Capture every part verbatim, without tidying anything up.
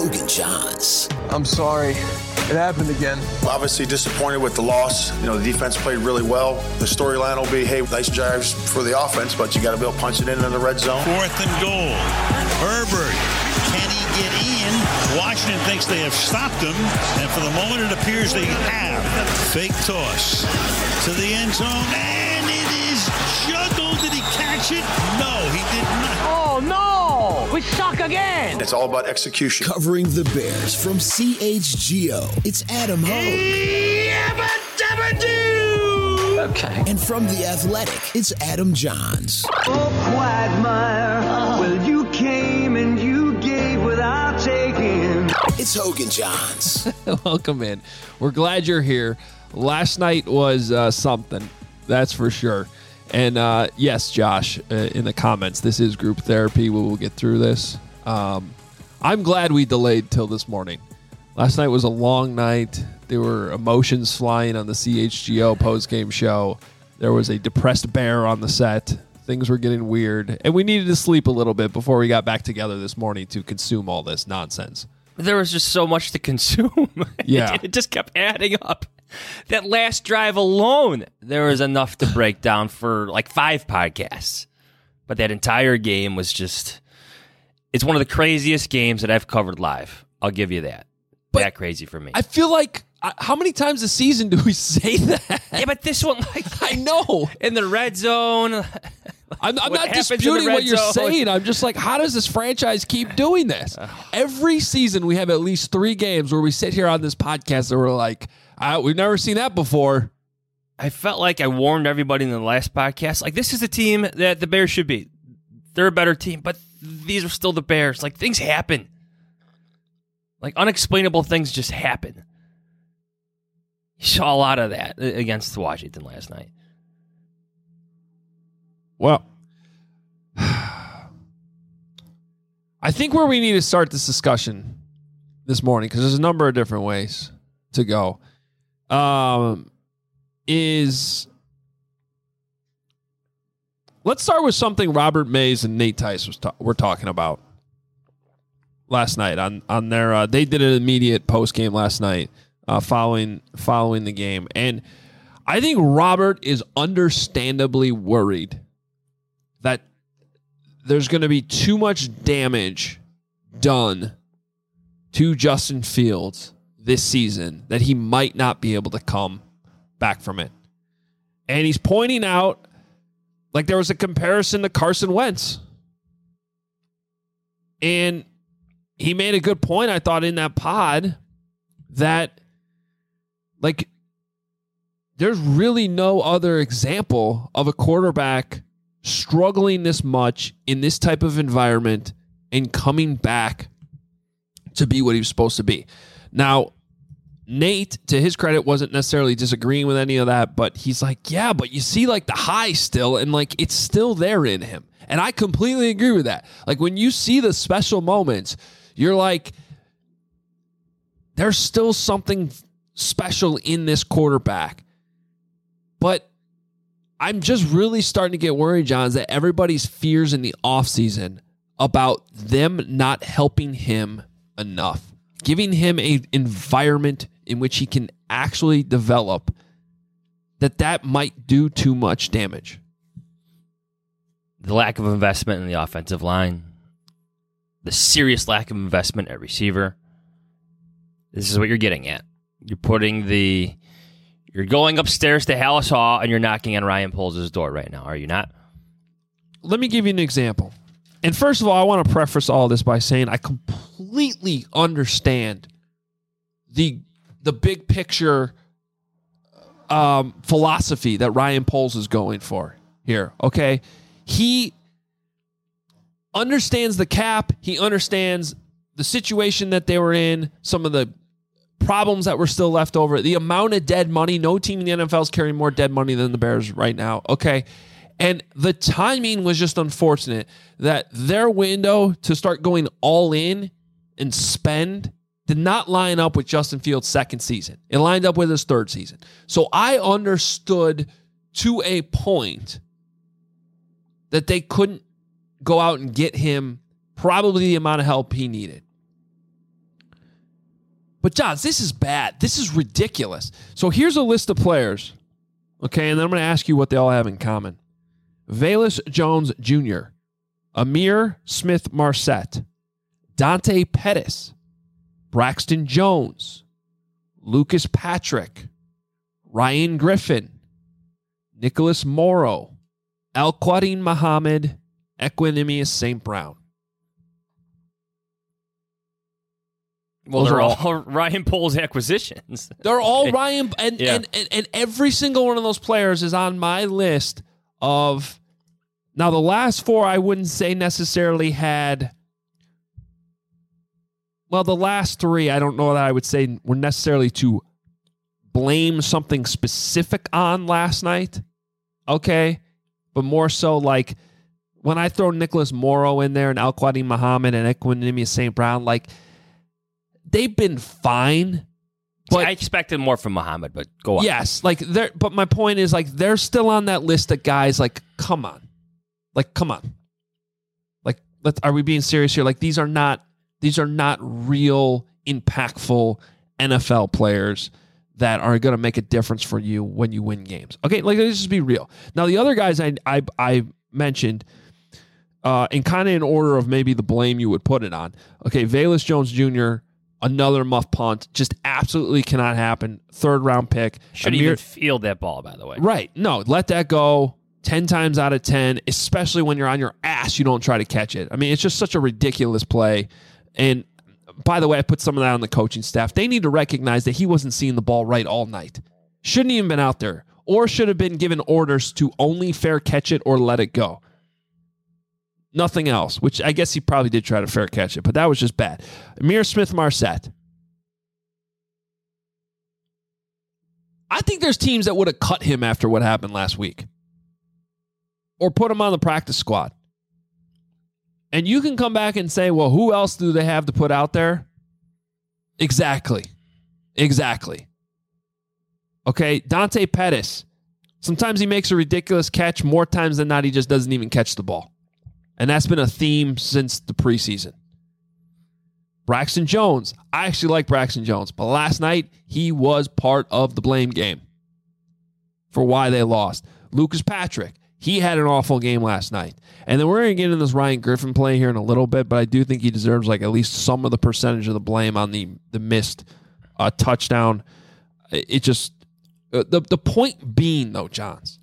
Hogan Johns. I'm sorry. It happened again. Obviously disappointed with the loss. You know, the defense played really well. The storyline will be, hey, nice drives for the offense, but you got to be able to punch it in in the red zone. Fourth and goal. Herbert. Can he get in? Washington thinks they have stopped him, and for the moment it appears they have. Fake toss to the end zone, and it is juggled. Did he catch it? No, he did not. Oh, no! We suck again! It's all about execution. Covering the Bears from C H G O, it's Adam Hogue. Okay. And from The Athletic, it's Adam Johns. Oh, Quagmire, well, you came and you gave without taking. It's Hogan Johns. Welcome in. We're glad you're here. Last night was uh, something, that's for sure. And uh, yes, Josh, uh, in the comments, this is group therapy. We will get through this. Um, I'm glad we delayed till this morning. Last night was a long night. There were emotions flying on the C H G O postgame show. There was a depressed bear on the set. Things were getting weird. And we needed to sleep a little bit before we got back together this morning to consume all this nonsense. There was just so much to consume. Yeah. it, it just kept adding up. That last drive alone, there was enough to break down for like five podcasts. But that entire game was just, it's one of the craziest games that I've covered live. I'll give you that. But that crazy for me. I feel like, uh, how many times a season do we say that? Yeah, but this one, like, I know. In the red zone. I'm, I'm What not happens in the disputing red what you're zone? saying. I'm just like, how does this franchise keep doing this? Every season we have at least three games where we sit here on this podcast and we're like, uh, we've never seen that before. I felt like I warned everybody in the last podcast. Like, this is the team that the Bears should be. They're a better team, but these are still the Bears. Like, things happen. Like, unexplainable things just happen. You saw a lot of that against Washington last night. Well, I think where we need to start this discussion this morning, because there's a number of different ways to go, um, is let's start with something Robert Mays and Nate Tice was ta- were talking about last night on on their. Uh, they did an immediate post game last night uh, following following the game, and I think Robert is understandably worried that there's going to be too much damage done to Justin Fields this season that he might not be able to come back from it. And he's pointing out, like, there was a comparison to Carson Wentz. And he made a good point, I thought, in that pod that, like, there's really no other example of a quarterback struggling this much in this type of environment and coming back to be what he was supposed to be. Now, Nate, to his credit, wasn't necessarily disagreeing with any of that, but he's like, yeah, but you see, like, the high still, and, like, it's still there in him. And I completely agree with that. Like, when you see the special moments, you're like, there's still something special in this quarterback. But I'm just really starting to get worried, John, that everybody's fears in the offseason about them not helping him enough, giving him an environment in which he can actually develop, that that might do too much damage. The lack of investment in the offensive line, the serious lack of investment at receiver. This is what you're getting at. You're putting the, you're going upstairs to Hallis Hall and you're knocking on Ryan Poles' door right now, are you not? Let me give you an example. And first of all, I want to preface all this by saying I completely understand the the big picture um, philosophy that Ryan Poles is going for here. Okay, he understands the cap. He understands the situation that they were in, some of the problems that were still left over, the amount of dead money. No team in the N F L is carrying more dead money than the Bears right now. Okay. And the timing was just unfortunate that their window to start going all in and spend did not line up with Justin Fields' second season. It lined up with his third season. So I understood to a point that they couldn't go out and get him probably the amount of help he needed. But, Johns, this is bad. This is ridiculous. So here's a list of players, okay, and then I'm going to ask you what they all have in common. Velus Jones Junior, Amir Smith-Marset, Dante Pettis, Braxton Jones, Lucas Patrick, Ryan Griffin, Nicholas Morrow, Al-Quadin Muhammad, Equanimous Saint Brown. Well, Those they're are all, all Ryan Poles acquisitions. They're all Ryan, and, Yeah. and, and, and every single one of those players is on my list of. Now, the last four I wouldn't say necessarily had. Well, the last three I don't know that I would say were necessarily to blame something specific on last night. Okay, but more so like when I throw Nicholas Morrow in there and Al-Quadin Muhammad and Equanimous Saint Brown, like. They've been fine. But See, I expected more from Muhammad, but go on. Yes, like they're but my point is like they're still on that list of guys like come on. Like come on. Like let's are we being serious here? Like these are not these are not real impactful N F L players that are going to make a difference for you when you win games. Okay, like let's just be real. Now the other guys I I I mentioned uh in kind of in order of maybe the blame you would put it on. Okay, Velus Jones Junior, another muff punt. Just absolutely cannot happen. Third round pick. Shouldn't Amir, even field that ball, by the way. Right. No, let that go ten times out of ten, especially when you're on your ass, you don't try to catch it. I mean, it's just such a ridiculous play. And by the way, I put some of that on the coaching staff. They need to recognize that he wasn't seeing the ball right all night. Shouldn't even been out there. Or should have been given orders to only fair catch it or let it go. Nothing else, which I guess he probably did try to fair catch it, but that was just bad. Amir Smith-Marset. I think there's teams that would have cut him after what happened last week. Or put him on the practice squad. And you can come back and say, well, who else do they have to put out there? Exactly. Exactly. Okay, Dante Pettis. Sometimes he makes a ridiculous catch. More times than not, he just doesn't even catch the ball. And that's been a theme since the preseason. Braxton Jones. I actually like Braxton Jones. But last night, he was part of the blame game for why they lost. Lucas Patrick. He had an awful game last night. And then we're going to get into this Ryan Griffin play here in a little bit, but I do think he deserves like at least some of the percentage of the blame on the, the missed uh, touchdown. It just... Uh, the, the point being, though, Johns,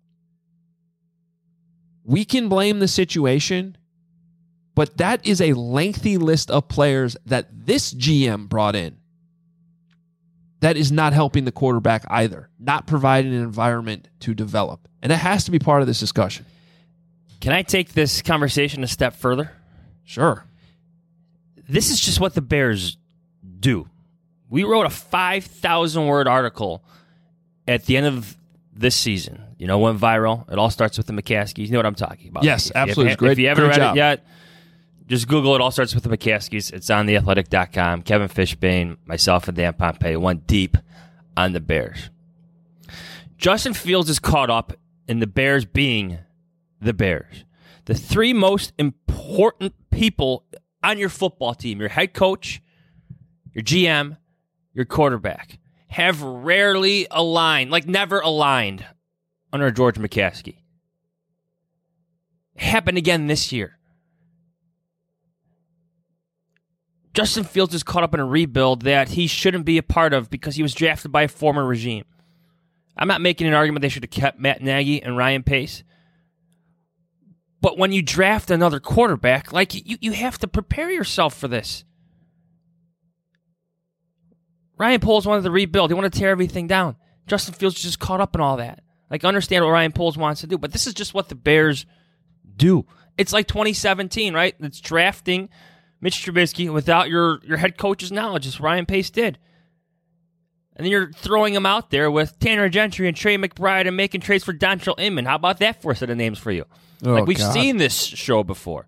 we can blame the situation, but that is a lengthy list of players that this G M brought in that is not helping the quarterback either, not providing an environment to develop. And it has to be part of this discussion. Can I take this conversation a step further? Sure. This is just what the Bears do. We wrote a five thousand word article at the end of this season. You know, went viral. It all starts with the McCaskies. You know what I'm talking about. Yes, if absolutely. You, Great, if you haven't great read job. it yet, just Google It All Starts with the McCaskies. It's on the athletic dot com. Kevin Fishbane, myself, and Dan Pompei went deep on the Bears. Justin Fields is caught up in the Bears being the Bears. The three most important people on your football team, your head coach, your G M, your quarterback, have rarely aligned, like never aligned under George McCaskey. Happened again this year. Justin Fields is caught up in a rebuild that he shouldn't be a part of because he was drafted by a former regime. I'm not making an argument they should have kept Matt Nagy and Ryan Pace. But when you draft another quarterback, like you, you have to prepare yourself for this. Ryan Poles wanted to rebuild. He wanted to tear everything down. Justin Fields just caught up in all that. Like, understand what Ryan Poles wants to do. But this is just what the Bears do. It's like twenty seventeen, right? It's drafting Mitch Trubisky without your, your head coach's knowledge, as Ryan Pace did. And then you're throwing him out there with Tanner Gentry and Trey McBride and making trades for Dontrell Inman. How about that for a set of names for you? Oh, like, we've God. seen this show before.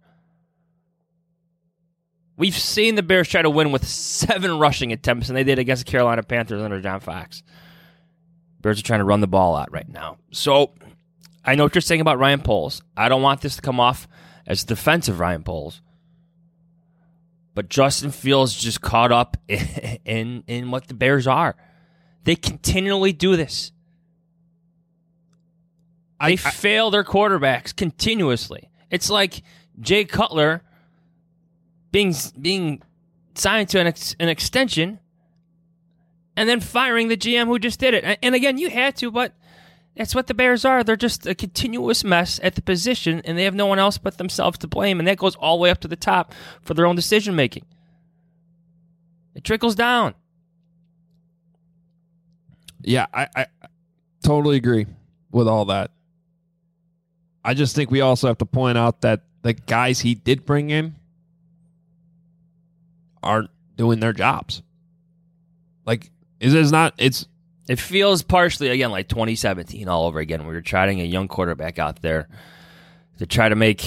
We've seen the Bears try to win with seven rushing attempts, and they did against the Carolina Panthers under John Fox. Bears are trying to run the ball out right now. So, I know what you're saying about Ryan Poles. I don't want this to come off as defensive Ryan Poles. But Justin Fields just caught up in, in, in what the Bears are. They continually do this. They I, fail their quarterbacks continuously. It's like Jay Cutler being being signed to an, ex, an extension and then firing the G M who just did it. And, and again, you had to, but that's what the Bears are. They're just a continuous mess at the position, and they have no one else but themselves to blame, and that goes all the way up to the top for their own decision-making. It trickles down. Yeah, I, I totally agree with all that. I just think we also have to point out that the guys he did bring in aren't doing their jobs. Like, it is not, it's, It feels partially, again, like twenty seventeen all over again. We were trying a young quarterback out there to try to make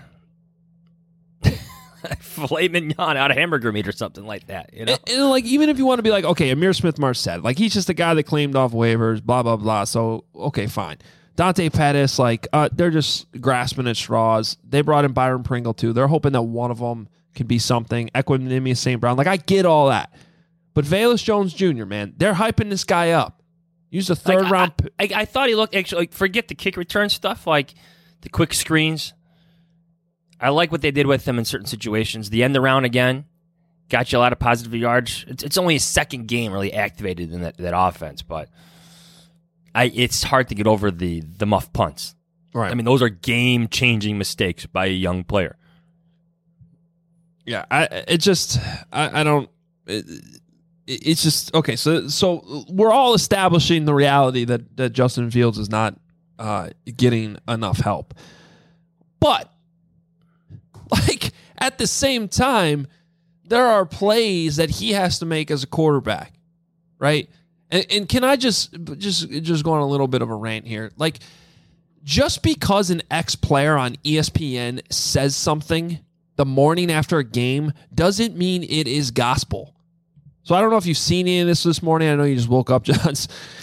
filet mignon out of hamburger meat or something like that. You know, and, and like even if you want to be like, okay, Amir Smith-Marset, like he's just a guy that claimed off waivers, blah blah blah. So okay, fine. Dante Pettis, like uh, they're just grasping at straws. They brought in Byron Pringle too. They're hoping that one of them can be something. Equanimeous Saint Brown, like I get all that. But Velus Jones Junior, man, they're hyping this guy up. Use a third like, round. I, I, I thought he looked actually. Like, forget the kick return stuff, like the quick screens. I like what they did with him in certain situations. The end around again got you a lot of positive yards. It's, it's only his second game really activated in that, that offense, but I it's hard to get over the the muff punts. Right. I mean, those are game changing mistakes by a young player. Yeah, I it just I, I don't. It, It's just okay. So, so we're all establishing the reality that, that Justin Fields is not uh, getting enough help, but like at the same time, there are plays that he has to make as a quarterback, right? And, and can I just just just go on a little bit of a rant here? Like, just because an ex-player on E S P N says something the morning after a game doesn't mean it is gospel. So I don't know if you've seen any of this this morning. I know you just woke up, Johns.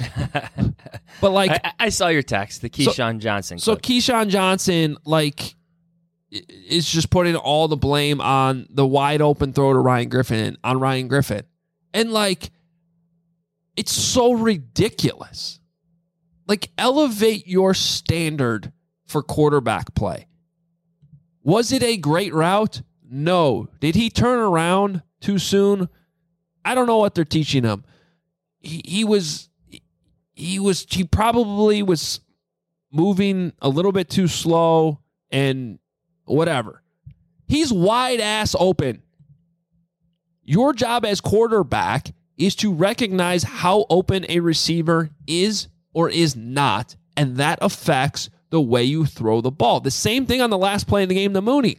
But like, I, I saw your text, the Keyshawn so, Johnson. So clip. Keyshawn Johnson, like, is just putting all the blame on the wide open throw to Ryan Griffin on Ryan Griffin, and like, it's so ridiculous. Like, elevate your standard for quarterback play. Was it a great route? No. Did he turn around too soon? I don't know what they're teaching him. He, he was, he was, he probably was moving a little bit too slow and whatever. He's wide ass open. Your job as quarterback is to recognize how open a receiver is or is not, and that affects the way you throw the ball. The same thing on the last play in the game to Mooney.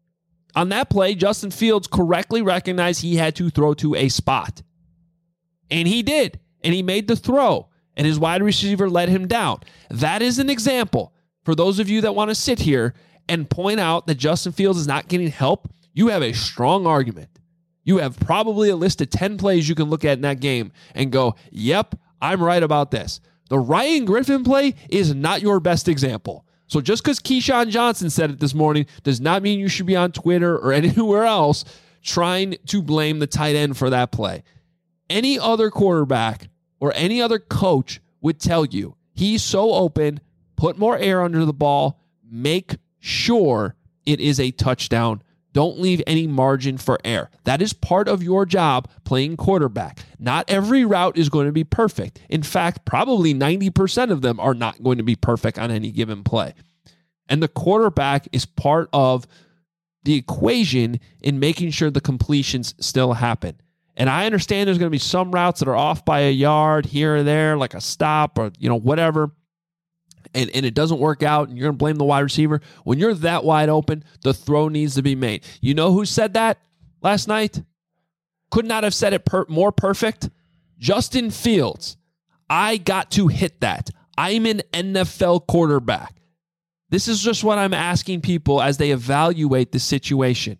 On that play, Justin Fields correctly recognized he had to throw to a spot. And he did. And he made the throw. And his wide receiver let him down. That is an example. For those of you that want to sit here and point out that Justin Fields is not getting help, you have a strong argument. You have probably a list of ten plays you can look at in that game and go, yep, I'm right about this. The Ryan Griffin play is not your best example. So just because Keyshawn Johnson said it this morning does not mean you should be on Twitter or anywhere else trying to blame the tight end for that play. Any other quarterback or any other coach would tell you he's so open, put more air under the ball, make sure it is a touchdown. Don't leave any margin for error. That is part of your job playing quarterback. Not every route is going to be perfect. In fact, probably ninety percent of them are not going to be perfect on any given play. And the quarterback is part of the equation in making sure the completions still happen. And I understand there's going to be some routes that are off by a yard here or there, like a stop or, you know, whatever. And, and it doesn't work out, and you're going to blame the wide receiver. When you're that wide open, the throw needs to be made. You know who said that last night? Could not have said it per- more perfect. Justin Fields. I got to hit that. I'm an N F L quarterback. This is just what I'm asking people as they evaluate the situation.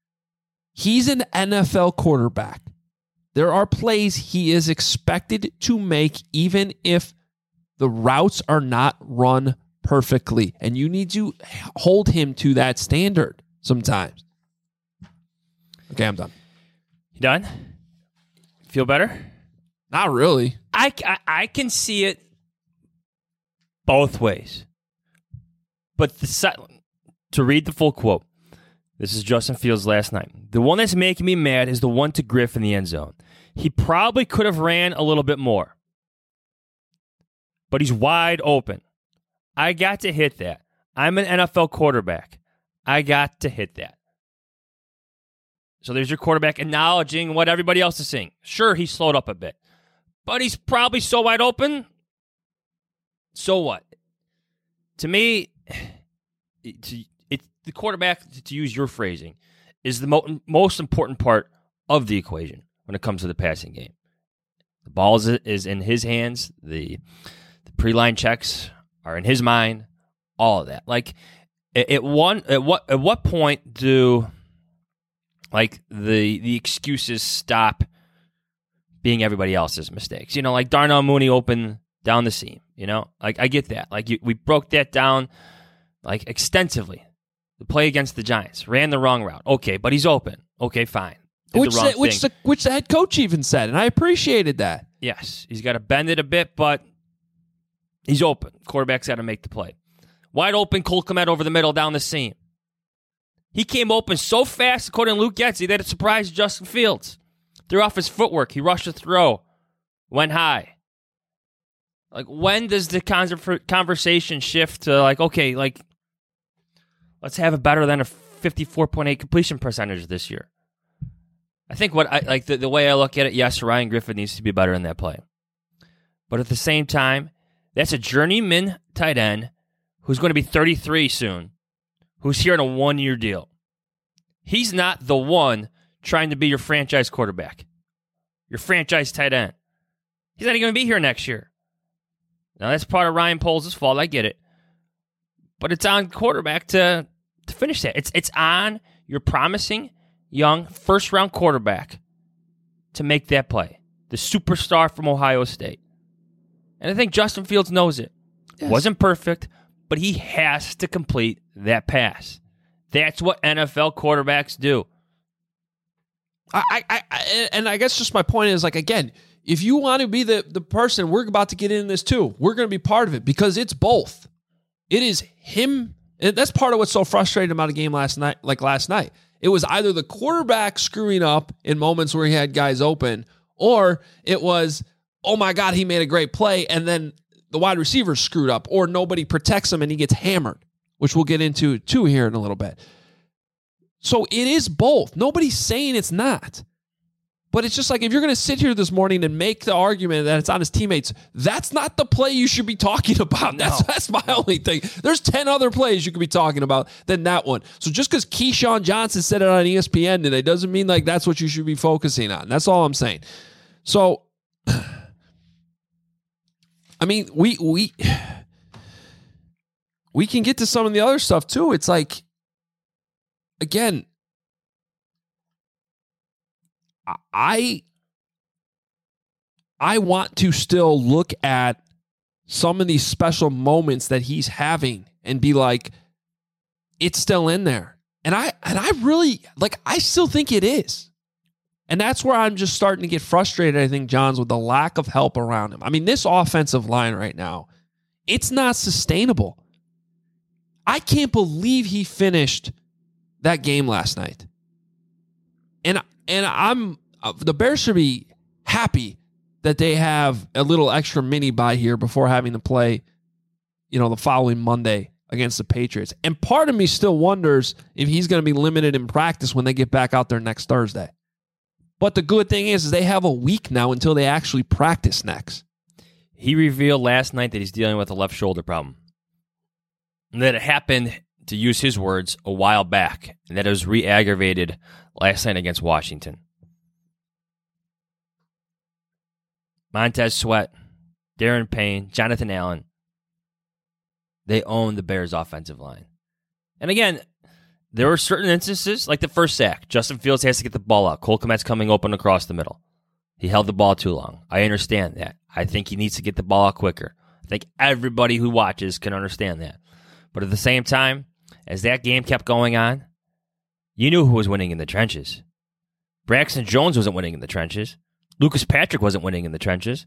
He's an N F L quarterback. There are plays he is expected to make even if the routes are not run perfectly, and you need to hold him to that standard sometimes. Okay, I'm done. You done? Feel better? Not really. I, I, I can see it both ways. But the, to read the full quote, this is Justin Fields last night. The one that's making me mad is the one to Griff in the end zone. He probably could have ran a little bit more. But he's wide open. I got to hit that. I'm an N F L quarterback. I got to hit that. So there's your quarterback acknowledging what everybody else is saying. Sure, he slowed up a bit. But he's probably so wide open. So what? To me, it's, it's the quarterback, to use your phrasing, is the mo- most important part of the equation when it comes to the passing game. The ball is, is in his hands. The, the pre-line checks are in his mind. All of that. Like, at, at one, at what, at what point do like the the excuses stop being everybody else's mistakes? You know, like Darnell Mooney open down the seam. You know, like I get that. Like you, we broke that down like extensively. The play against the Giants ran the wrong route. Okay, but he's open. Okay, fine. Did Which the wrong the, which thing. the which the head coach even said, and I appreciated that. Yes, he's got to bend it a bit, but he's open. Quarterback's got to make the play. Wide open, Cole Kmet over the middle down the seam. He came open so fast, according to Luke Getsy, that it surprised Justin Fields. Threw off his footwork. He rushed the throw. Went high. Like, when does the conversation shift to, like, okay, like, let's have it better than a fifty-four point eight completion percentage this year? I think what I like the, the way I look at it, yes, Ryan Griffin needs to be better in that play. But at the same time, that's a journeyman tight end who's going to be thirty-three soon, who's here on a one-year deal. He's not the one trying to be your franchise quarterback, your franchise tight end. He's not even going to be here next year. Now, that's part of Ryan Poles' fault. I get it. But it's on quarterback to, to finish that. It's, it's on your promising, young, first-round quarterback to make that play. The superstar from Ohio State. And I think Justin Fields knows it. Yes. Wasn't perfect, but he has to complete that pass. That's what N F L quarterbacks do. I, I, I, and I guess just my point is, like, again, if you want to be the, the person, we're about to get in this too. We're going to be part of it because it's both. It is him. And that's part of what's so frustrating about a game last night, like last night. It was either the quarterback screwing up in moments where he had guys open, or it was, oh my God, he made a great play, and then the wide receiver screwed up, or nobody protects him and he gets hammered, which we'll get into too here in a little bit. So it is both. Nobody's saying it's not. But it's just like, if you're going to sit here this morning and make the argument that it's on his teammates, that's not the play you should be talking about. That's no. that's my only thing. There's ten other plays you could be talking about than that one. So just because Keyshawn Johnson said it on E S P N today doesn't mean like that's what you should be focusing on. That's all I'm saying. So, I mean, we we we can get to some of the other stuff too. It's like, again, I I want to still look at some of these special moments that he's having and be like, it's still in there. And I and I really, like, I still think it is. And that's where I'm just starting to get frustrated, I think, Johns, with the lack of help around him. I mean, this offensive line right now, it's not sustainable. I can't believe he finished that game last night. And and I'm uh, the Bears should be happy that they have a little extra mini bye here before having to play, you know, the following Monday against the Patriots. And part of me still wonders if he's going to be limited in practice when they get back out there next Thursday. But the good thing is, is they have a week now until they actually practice next. He revealed last night that he's dealing with a left shoulder problem. And that it happened, to use his words, a while back. And that it was re-aggravated last night against Washington. Montez Sweat, Darren Payne, Jonathan Allen. They own the Bears' offensive line. And again, there were certain instances, like the first sack. Justin Fields has to get the ball out. Cole Kmet's coming open across the middle. He held the ball too long. I understand that. I think he needs to get the ball out quicker. I think everybody who watches can understand that. But at the same time, as that game kept going on, you knew who was winning in the trenches. Braxton Jones wasn't winning in the trenches. Lucas Patrick wasn't winning in the trenches.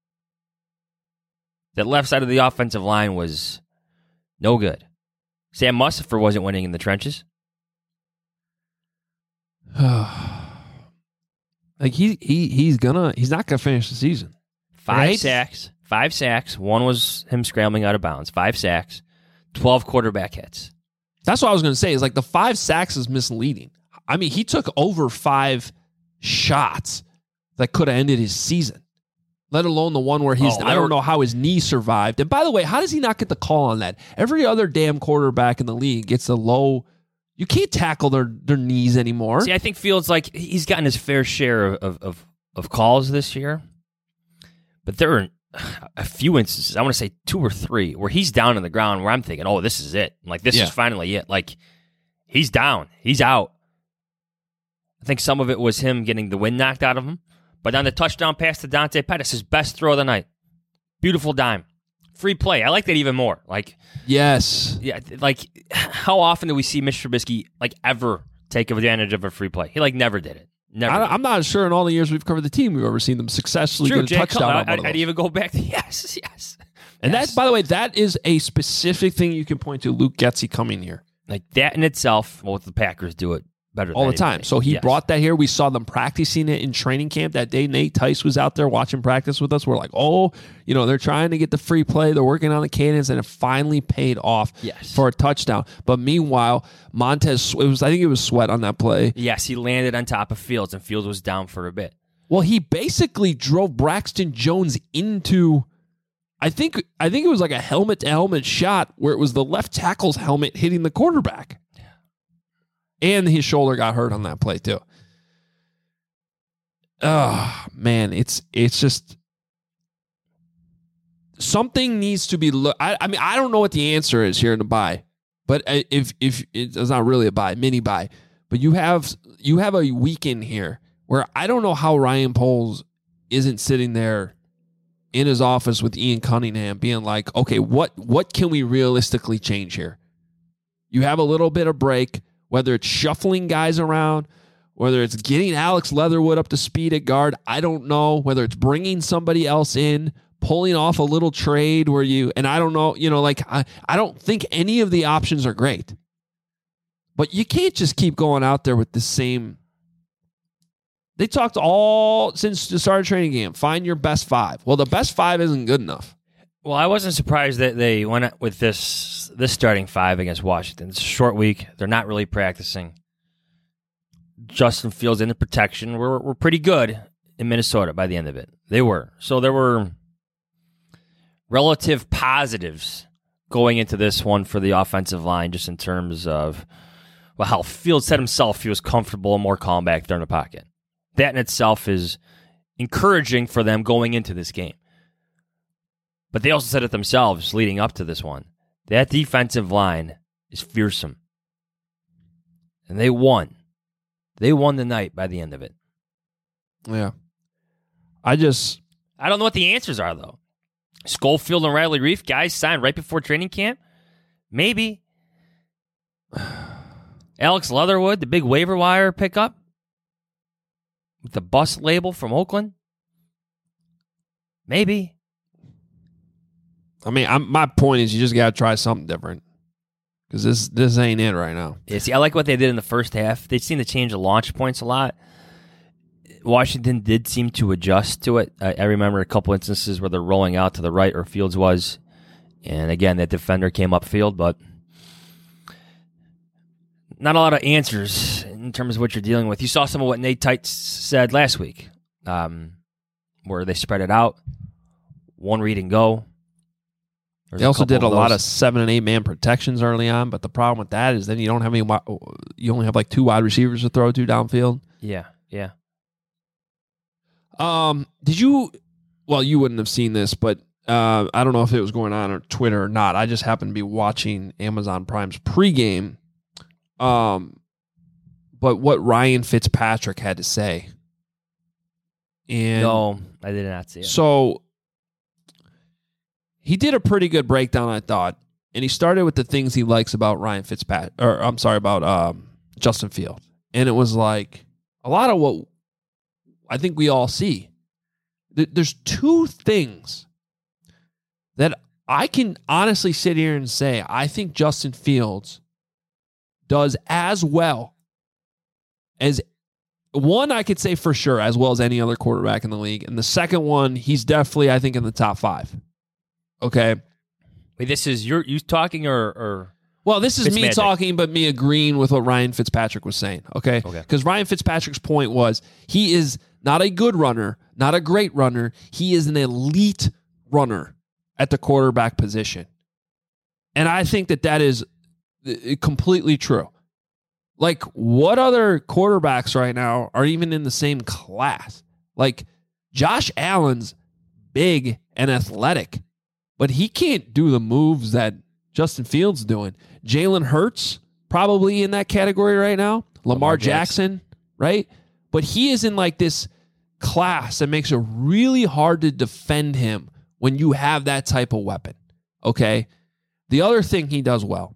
That left side of the offensive line was no good. Sam Mustipher wasn't winning in the trenches. Like he he he's gonna he's not gonna finish the season. Five right? sacks. Five sacks. One was him scrambling out of bounds. Five sacks. Twelve quarterback hits. That's what I was gonna say. Is like the five sacks is misleading. I mean, he took over five shots that could have ended his season. Let alone the one where he's Oh, I don't were- know how his knee survived. And by the way, how does he not get the call on that? Every other damn quarterback in the league gets a low. You can't tackle their, their knees anymore. See, I think Fields, like, he's gotten his fair share of, of, of, of calls this year. But there are a few instances, I want to say two or three, where he's down on the ground where I'm thinking, oh, this is it. Like, this Yeah. is finally it. Like, he's down. He's out. I think some of it was him getting the wind knocked out of him. But on the touchdown pass to Dante Pettis, his best throw of the night. Beautiful dime. Free play. I like that even more. Like, Yes. yeah, like how often do we see Mister Trubisky like ever take advantage of a free play? He like never did it. Never. I, did it. I'm not sure in all the years we've covered the team we've ever seen them successfully True, get a Jay touchdown Cutler, on one I'd, of I'd those. even go back to yes, yes. And yes. that, by the way, that is a specific thing you can point to. Luke Getsy coming here Like that in itself, well, the Packers do it better all than the time. anybody. So he Yes. brought that here. We saw them practicing it in training camp that day. Nate Tice was out there watching practice with us. We're like, oh, you know, they're trying to get the free play. They're working on the cadence, and it finally paid off Yes. for a touchdown. But meanwhile, Montez, it was I think it was Sweat on that play. Yes, he landed on top of Fields, and Fields was down for a bit. Well, he basically drove Braxton Jones into. I think I think it was like a helmet to helmet shot where it was the left tackle's helmet hitting the quarterback. And his shoulder got hurt on that play too. Oh, man, it's it's just something needs to be look. I, I mean, I don't know what the answer is here in the buy, but if if it's not really a buy, mini buy, but you have you have a weekend here where I don't know how Ryan Poles isn't sitting there in his office with Ian Cunningham being like, okay, what what can we realistically change here? You have a little bit of break, whether it's shuffling guys around, whether it's getting Alex Leatherwood up to speed at guard, I don't know, whether it's bringing somebody else in, pulling off a little trade where you, and I don't know, you know, like, I, I don't think any of the options are great. But you can't just keep going out there with the same. They talked all since the start of training camp. Find your best five. Well, the best five isn't good enough. Well, I wasn't surprised that they went with this this starting five against Washington. It's a short week. They're not really practicing. Justin Fields in the protection were were pretty good in Minnesota by the end of it. They were. So there were relative positives going into this one for the offensive line, just in terms of, well, how Fields said himself he was comfortable and more calm back there in the pocket. That in itself is encouraging for them going into this game. But they also said it themselves leading up to this one. That defensive line is fearsome. And they won. They won the night by the end of it. Yeah. I just... I don't know what the answers are, though. Schofield and Riley Reif, guys signed right before training camp? Maybe. Alex Leatherwood, the big waiver wire pickup? With the bus label from Oakland? Maybe. I mean, I'm, my point is you just got to try something different. Because this this ain't it right now. Yeah, see, I like what they did in the first half. They seem to change the launch points a lot. Washington did seem to adjust to it. I, I remember a couple instances where they're rolling out to the right, or Fields was. And again, that defender came upfield, but not a lot of answers in terms of what you're dealing with. You saw some of what Nate Tice said last week, um, where they spread it out, one read and go. There's They also couple did a of lot those. of seven and eight man protections early on, but the problem with that is then you don't have any. wi- You only have like two wide receivers to throw to downfield. Yeah, yeah. Um, did you? Well, you wouldn't have seen this, but uh, I don't know if it was going on on Twitter or not. I just happened to be watching Amazon Prime's pregame. Um, but what Ryan Fitzpatrick had to say, and No, I did not see it. so he did a pretty good breakdown, I thought, and he started with the things he likes about Ryan Fitzpatrick, or I'm sorry, about um, Justin Fields, and it was like, a lot of what I think we all see. There's two things that I can honestly sit here and say I think Justin Fields does as well as one, I could say for sure, as well as any other quarterback in the league. And the second one, he's definitely, I think, in the top five. Okay. Wait, this is you're you talking or or well, this is me Fitzmagic. talking, but me agreeing with what Ryan Fitzpatrick was saying. Okay. Okay. Because Ryan Fitzpatrick's point was he is not a good runner, not a great runner. He is an elite runner at the quarterback position. And I think that that is completely true. Like, what other quarterbacks right now are even in the same class? Like, Josh Allen's big and athletic, but he can't do the moves that Justin Fields is doing. Jalen Hurts, probably in that category right now. Lamar, Lamar Jackson, Jackson, right? But he is in like this class that makes it really hard to defend him when you have that type of weapon, okay? The other thing he does well,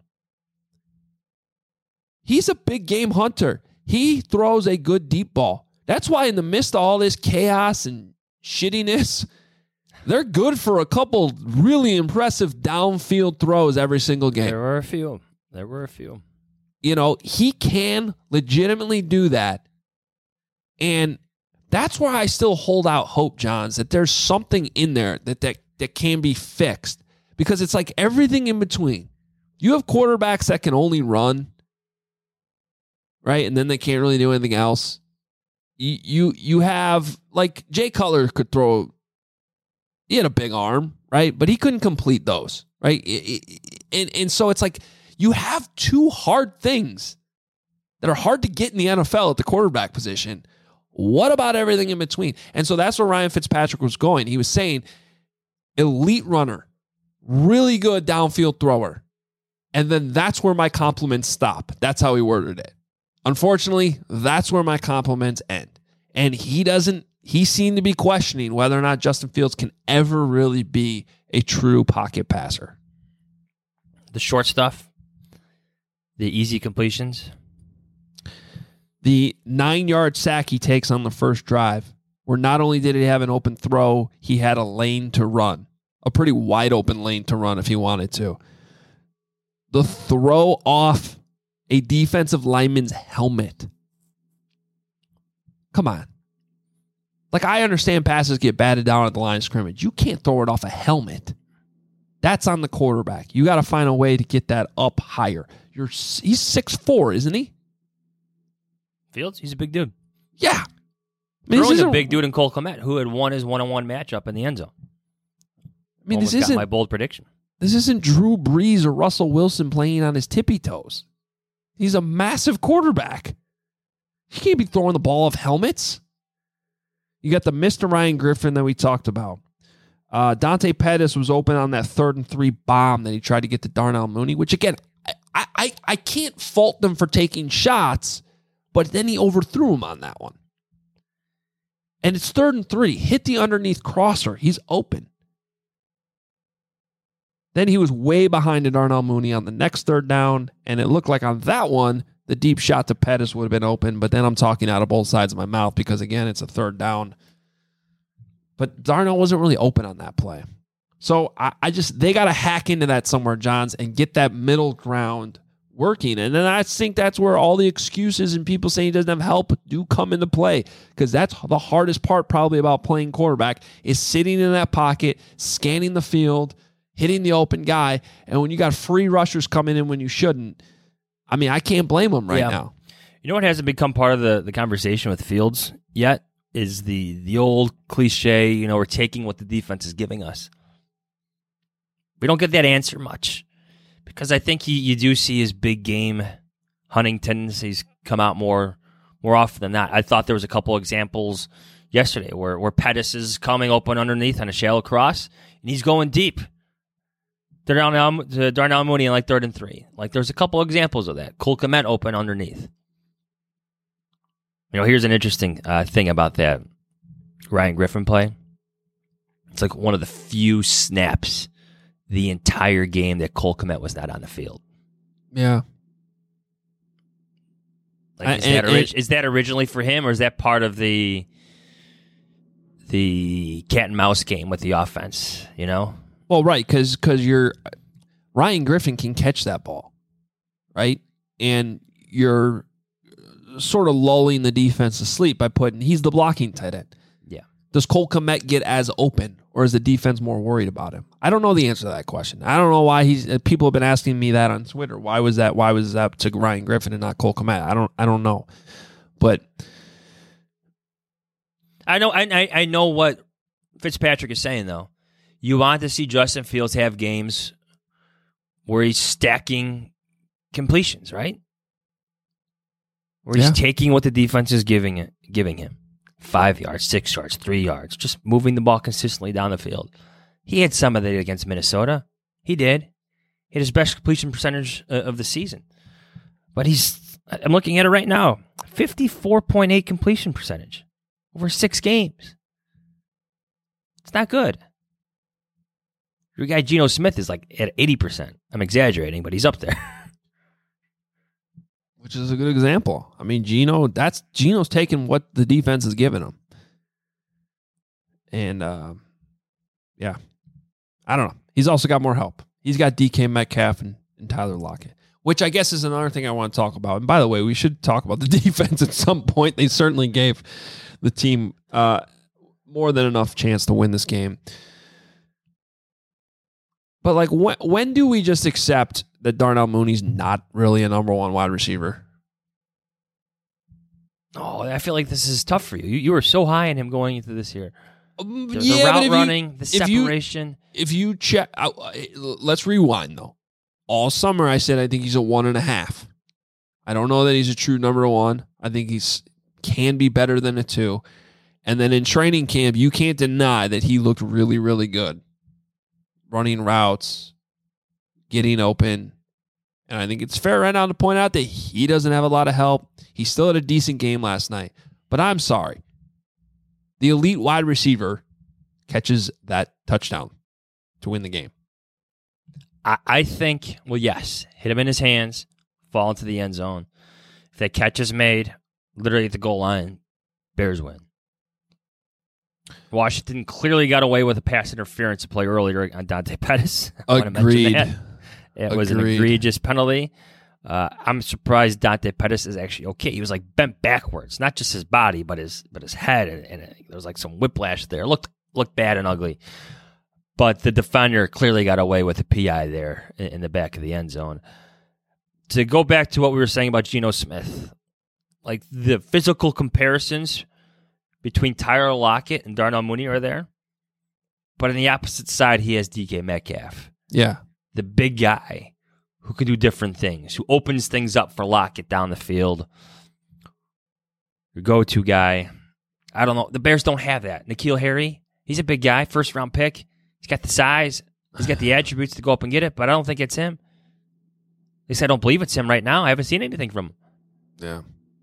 he's a big game hunter. He throws a good deep ball. That's why in the midst of all this chaos and shittiness, they're good for a couple really impressive downfield throws every single game. There were a few. There were a few. You know, he can legitimately do that. And that's where I still hold out hope, Johns, that there's something in there that, that, that can be fixed. Because it's like everything in between. You have quarterbacks that can only run, right? And then they can't really do anything else. You you, you have, like, Jay Cutler could throw, he had a big arm, right? But he couldn't complete those, right? And, and so it's like you have two hard things that are hard to get in the N F L at the quarterback position. What about everything in between? And so that's where Ryan Fitzpatrick was going. He was saying elite runner, really good downfield thrower. And then that's where my compliments stop. That's how he worded it. Unfortunately, that's where my compliments end. And he doesn't, he seemed to be questioning whether or not Justin Fields can ever really be a true pocket passer. The short stuff, the easy completions. The nine-yard sack he takes on the first drive, where not only did he have an open throw, he had a lane to run. A pretty wide-open lane to run if he wanted to. The throw off a defensive lineman's helmet. Come on. Like, I understand passes get batted down at the line of scrimmage. You can't throw it off a helmet. That's on the quarterback. You got to find a way to get that up higher. You're He's six foot four, isn't he? Fields, he's a big dude. Yeah. I mean, Throwing a big dude in Cole Kmet, who had won his one-on-one matchup in the end zone. I mean, Almost this isn't got my bold prediction. This isn't Drew Brees or Russell Wilson playing on his tippy toes. He's a massive quarterback. He can't be throwing the ball off helmets. You got the Mister Ryan Griffin that we talked about. Uh, Dante Pettis was open on that third and three bomb that he tried to get to Darnell Mooney, which, again, I, I, I can't fault them for taking shots, but then he overthrew him on that one. And it's third and three. Hit the underneath crosser. He's open. Then he was way behind to Darnell Mooney on the next third down, and it looked like on that one, the deep shot to Pettis would have been open, but then I'm talking out of both sides of my mouth because, again, it's a third down. But Darnell wasn't really open on that play. So I, I just, they got to hack into that somewhere, Johns, and get that middle ground working. And then I think that's where all the excuses and people saying he doesn't have help do come into play, because that's the hardest part probably about playing quarterback is sitting in that pocket, scanning the field, hitting the open guy. And when you got free rushers coming in when you shouldn't, I mean, I can't blame them right yeah. now. You know what hasn't become part of the, the conversation with Fields yet is the the old cliche, you know, we're taking what the defense is giving us. We don't get that answer much because I think you, you do see his big game hunting tendencies come out more more often than not. I thought there was a couple examples yesterday where, where Pettis is coming open underneath on a shallow cross and he's going deep. Darnell, Darnell Mooney in like third and three. Like there's a couple examples of that. Cole Kmet open underneath. You know, here's an interesting uh, thing about that Ryan Griffin play. It's like one of the few snaps the entire game that Cole Kmet was not on the field. Yeah. Like, is, I, that and, orig- and, is that originally for him, or is that part of the the cat and mouse game with the offense? You know. Well, right, because because you're Ryan Griffin can catch that ball, right, and you're sort of lulling the defense to sleep by putting he's the blocking tight end. Yeah. Does Cole Kmet get as open, or is the defense more worried about him? I don't know the answer to that question. I don't know why he's. People have been asking me that on Twitter. Why was that? Why was that to Ryan Griffin and not Cole Kmet? I don't. I don't know, but I know. I I know what Fitzpatrick is saying though. You want to see Justin Fields have games where he's stacking completions, right? Where he's Yeah. taking what the defense is giving it, giving him. Five yards, six yards, three yards, just moving the ball consistently down the field. He had some of that against Minnesota. He did. He had his best completion percentage uh, of the season. But he's, I'm looking at it right now, fifty-four point eight completion percentage over six games. It's not good. Your guy Geno Smith is like at eighty percent. I'm exaggerating, but he's up there. which is a good example. I mean, Geno, that's Geno's taking what the defense is giving him. And, uh, yeah, I don't know. He's also got more help. He's got D K Metcalf and, and Tyler Lockett, which I guess is another thing I want to talk about. And by the way, we should talk about the defense at some point. They certainly gave the team uh, more than enough chance to win this game. But, like, when, when do we just accept that Darnell Mooney's not really a number one wide receiver? Oh, I feel like this is tough for you. You, you were so high on him going into this year. Um, The, yeah, the but route if running, you, the if you- separation. If you check, uh, let's rewind, though. All summer, I said I think he's a one and a half. I don't know that he's a true number one. I think he's can be better than a two. And then in training camp, you can't deny that he looked really, really good. Running routes, getting open. And I think it's fair right now to point out that he doesn't have a lot of help. He still had a decent game last night. But I'm sorry. The elite wide receiver catches that touchdown to win the game. I, I think, well, yes, hit him in his hands, fall into the end zone. If that catch is made, literally at the goal line, Bears win. Washington clearly got away with a pass interference play earlier on Dante Pettis. I wanna mention Agreed. that. It was an Agreed. egregious penalty. Uh, I'm surprised Dante Pettis is actually okay. He was like bent backwards, not just his body, but his but his head, and, and there was like some whiplash there. It looked looked bad and ugly. But the defender clearly got away with a P I there in, in the back of the end zone. To go back to what we were saying about Geno Smith, like the physical comparisons between Tyler Lockett and Darnell Mooney are there, but on the opposite side, he has D K Metcalf. Yeah. The big guy who can do different things, who opens things up for Lockett down the field. Your go-to guy. I don't know. The Bears don't have that. N'Keal Harry, he's a big guy, first-round pick. He's got the size. He's got the attributes to go up and get it, but I don't think it's him. At least I don't believe it's him right now. I haven't seen anything from him. Yeah.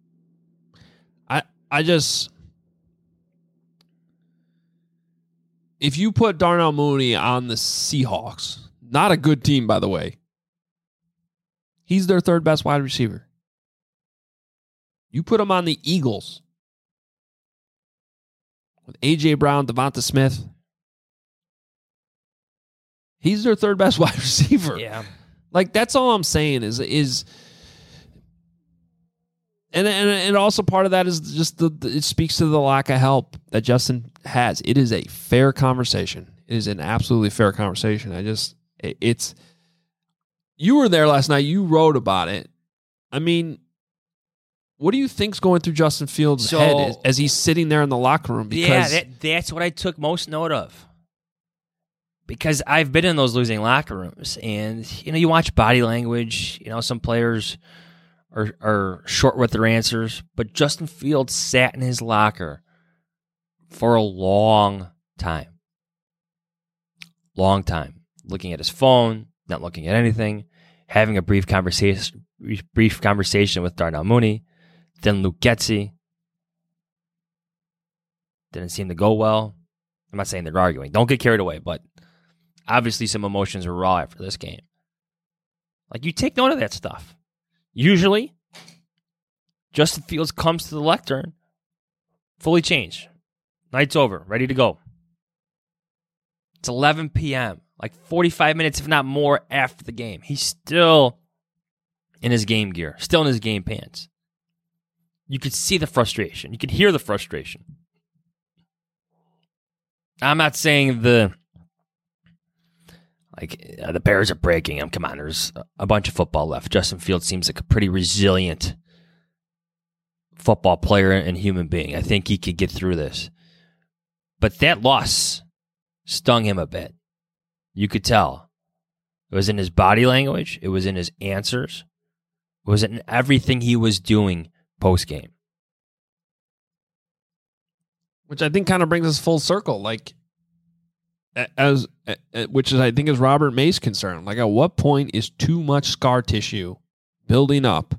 I I just... If you put Darnell Mooney on the Seahawks, not a good team, by the way, he's their third best wide receiver. You put him on the Eagles with A J. Brown, Devonta Smith, he's their third best wide receiver. Yeah. Like, that's all I'm saying is, is and, and, and also part of that is just the, the, it speaks to the lack of help that Justin has. It is a fair conversation. It is an absolutely fair conversation. I just, it, it's, you were there last night. You wrote about it. I mean, what do you think's going through Justin Fields' So- head as, as he's sitting there in the locker room? Because Yeah, that, that's what I took most note of. Because I've been in those losing locker rooms, and you know, you watch body language. You know, some players are are short with their answers, but Justin Fields sat in his locker for a long time, long time, looking at his phone, not looking at anything, having a brief conversation, brief conversation with Darnell Mooney, then Luke Getsy. Didn't seem to go well. I'm not saying they're arguing. Don't get carried away, but obviously some emotions were raw after this game. Like, you take note of that stuff. Usually, Justin Fields comes to the lectern, fully changed. Night's over, ready to go. It's eleven p.m., like forty-five minutes, if not more, after the game. He's still in his game gear, still in his game pants. You could see the frustration. You could hear the frustration. I'm not saying the like uh, the Bears are breaking him. Come on, there's a bunch of football left. Justin Fields seems like a pretty resilient football player and human being. I think he could get through this. But that loss stung him a bit. You could tell. It was in his body language. It was in his answers. It was in everything he was doing post-game. Which I think kind of brings us full circle. Like, as which is I think is Robert May's concern. Like, at what point is too much scar tissue building up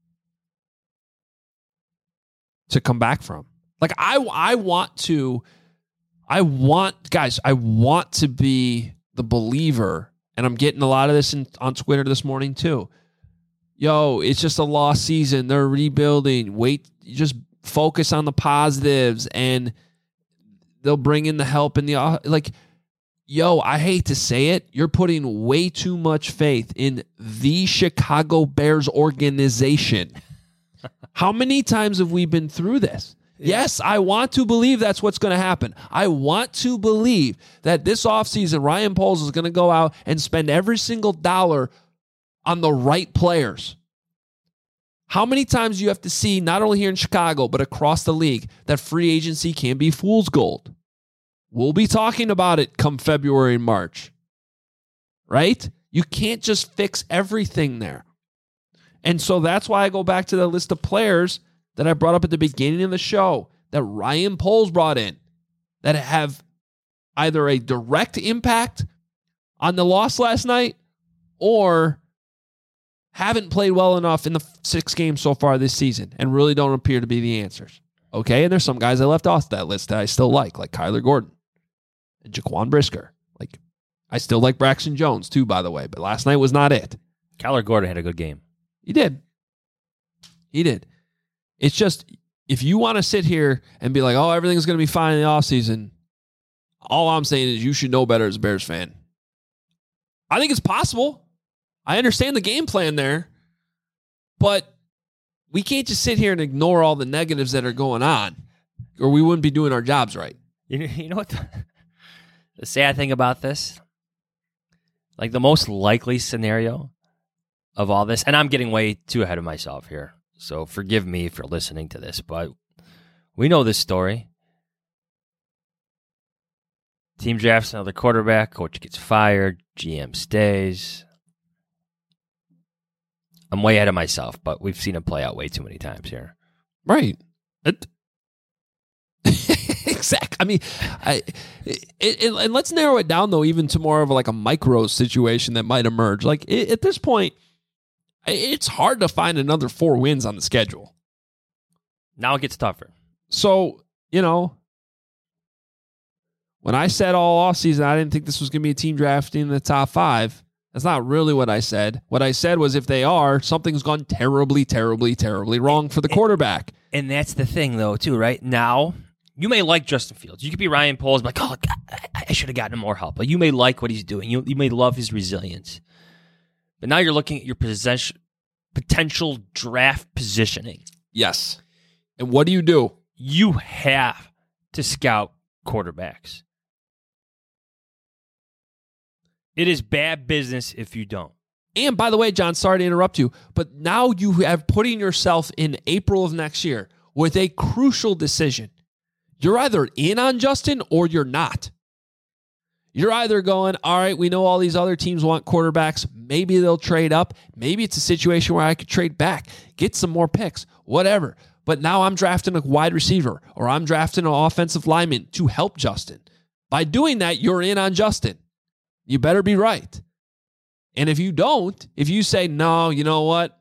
to come back from? Like, I I want to, I want guys, I want to be the believer, and I'm getting a lot of this in, on Twitter this morning too. Yo, it's just a lost season. They're rebuilding. Wait, just focus on the positives, and they'll bring in the help in the like. Yo, I hate to say it. You're putting way too much faith in the Chicago Bears organization. How many times have we been through this? Yeah. Yes, I want to believe that's what's going to happen. I want to believe that this offseason, Ryan Poles is going to go out and spend every single dollar on the right players. How many times do you have to see, not only here in Chicago, but across the league, that free agency can be fool's gold? We'll be talking about it come February and March, right? You can't just fix everything there. And so that's why I go back to the list of players that I brought up at the beginning of the show that Ryan Poles brought in that have either a direct impact on the loss last night or haven't played well enough in the six games so far this season and really don't appear to be the answers. Okay, and there's some guys I left off that list that I still like, like Kyler Gordon and Jaquan Brisker. Like, I still like Braxton Jones too, by the way, but last night was not it. Kyler Gordon had a good game. He did. He did. It's just, if you want to sit here and be like, oh, everything's going to be fine in the offseason, all I'm saying is you should know better as a Bears fan. I think it's possible. I understand the game plan there, but we can't just sit here and ignore all the negatives that are going on, or we wouldn't be doing our jobs right. You know, you know what the, the sad thing about this? Like, the most likely scenario of all this, and I'm getting way too ahead of myself here, so forgive me for listening to this, but we know this story. Team drafts another quarterback, coach gets fired, G M stays. I'm way ahead of myself, but we've seen it play out way too many times here. Right. It, exactly. I mean, I, it, it, and let's narrow it down, though, even to more of like a micro situation that might emerge. Like, it, at this point, it's hard to find another four wins on the schedule. Now it gets tougher. So, you know, when I said all offseason I didn't think this was going to be a team drafting in the top five, that's not really what I said. What I said was if they are, something's gone terribly, terribly, terribly wrong for the quarterback. And that's the thing, though, too, right? Now, you may like Justin Fields. You could be Ryan Poles, like, oh, God, I should have gotten him more help. But you may like what he's doing. You, you may love his resilience. But now you're looking at your possession, potential draft positioning. Yes. And what do you do? You have to scout quarterbacks. It is bad business if you don't. And by the way, John, sorry to interrupt you, but now you have putting yourself in April of next year with a crucial decision. You're either in on Justin or you're not. You're either going, all right, we know all these other teams want quarterbacks. Maybe they'll trade up. Maybe it's a situation where I could trade back, get some more picks, whatever. But now I'm drafting a wide receiver or I'm drafting an offensive lineman to help Justin. By doing that, you're in on Justin. You better be right. And if you don't, if you say, no, you know what?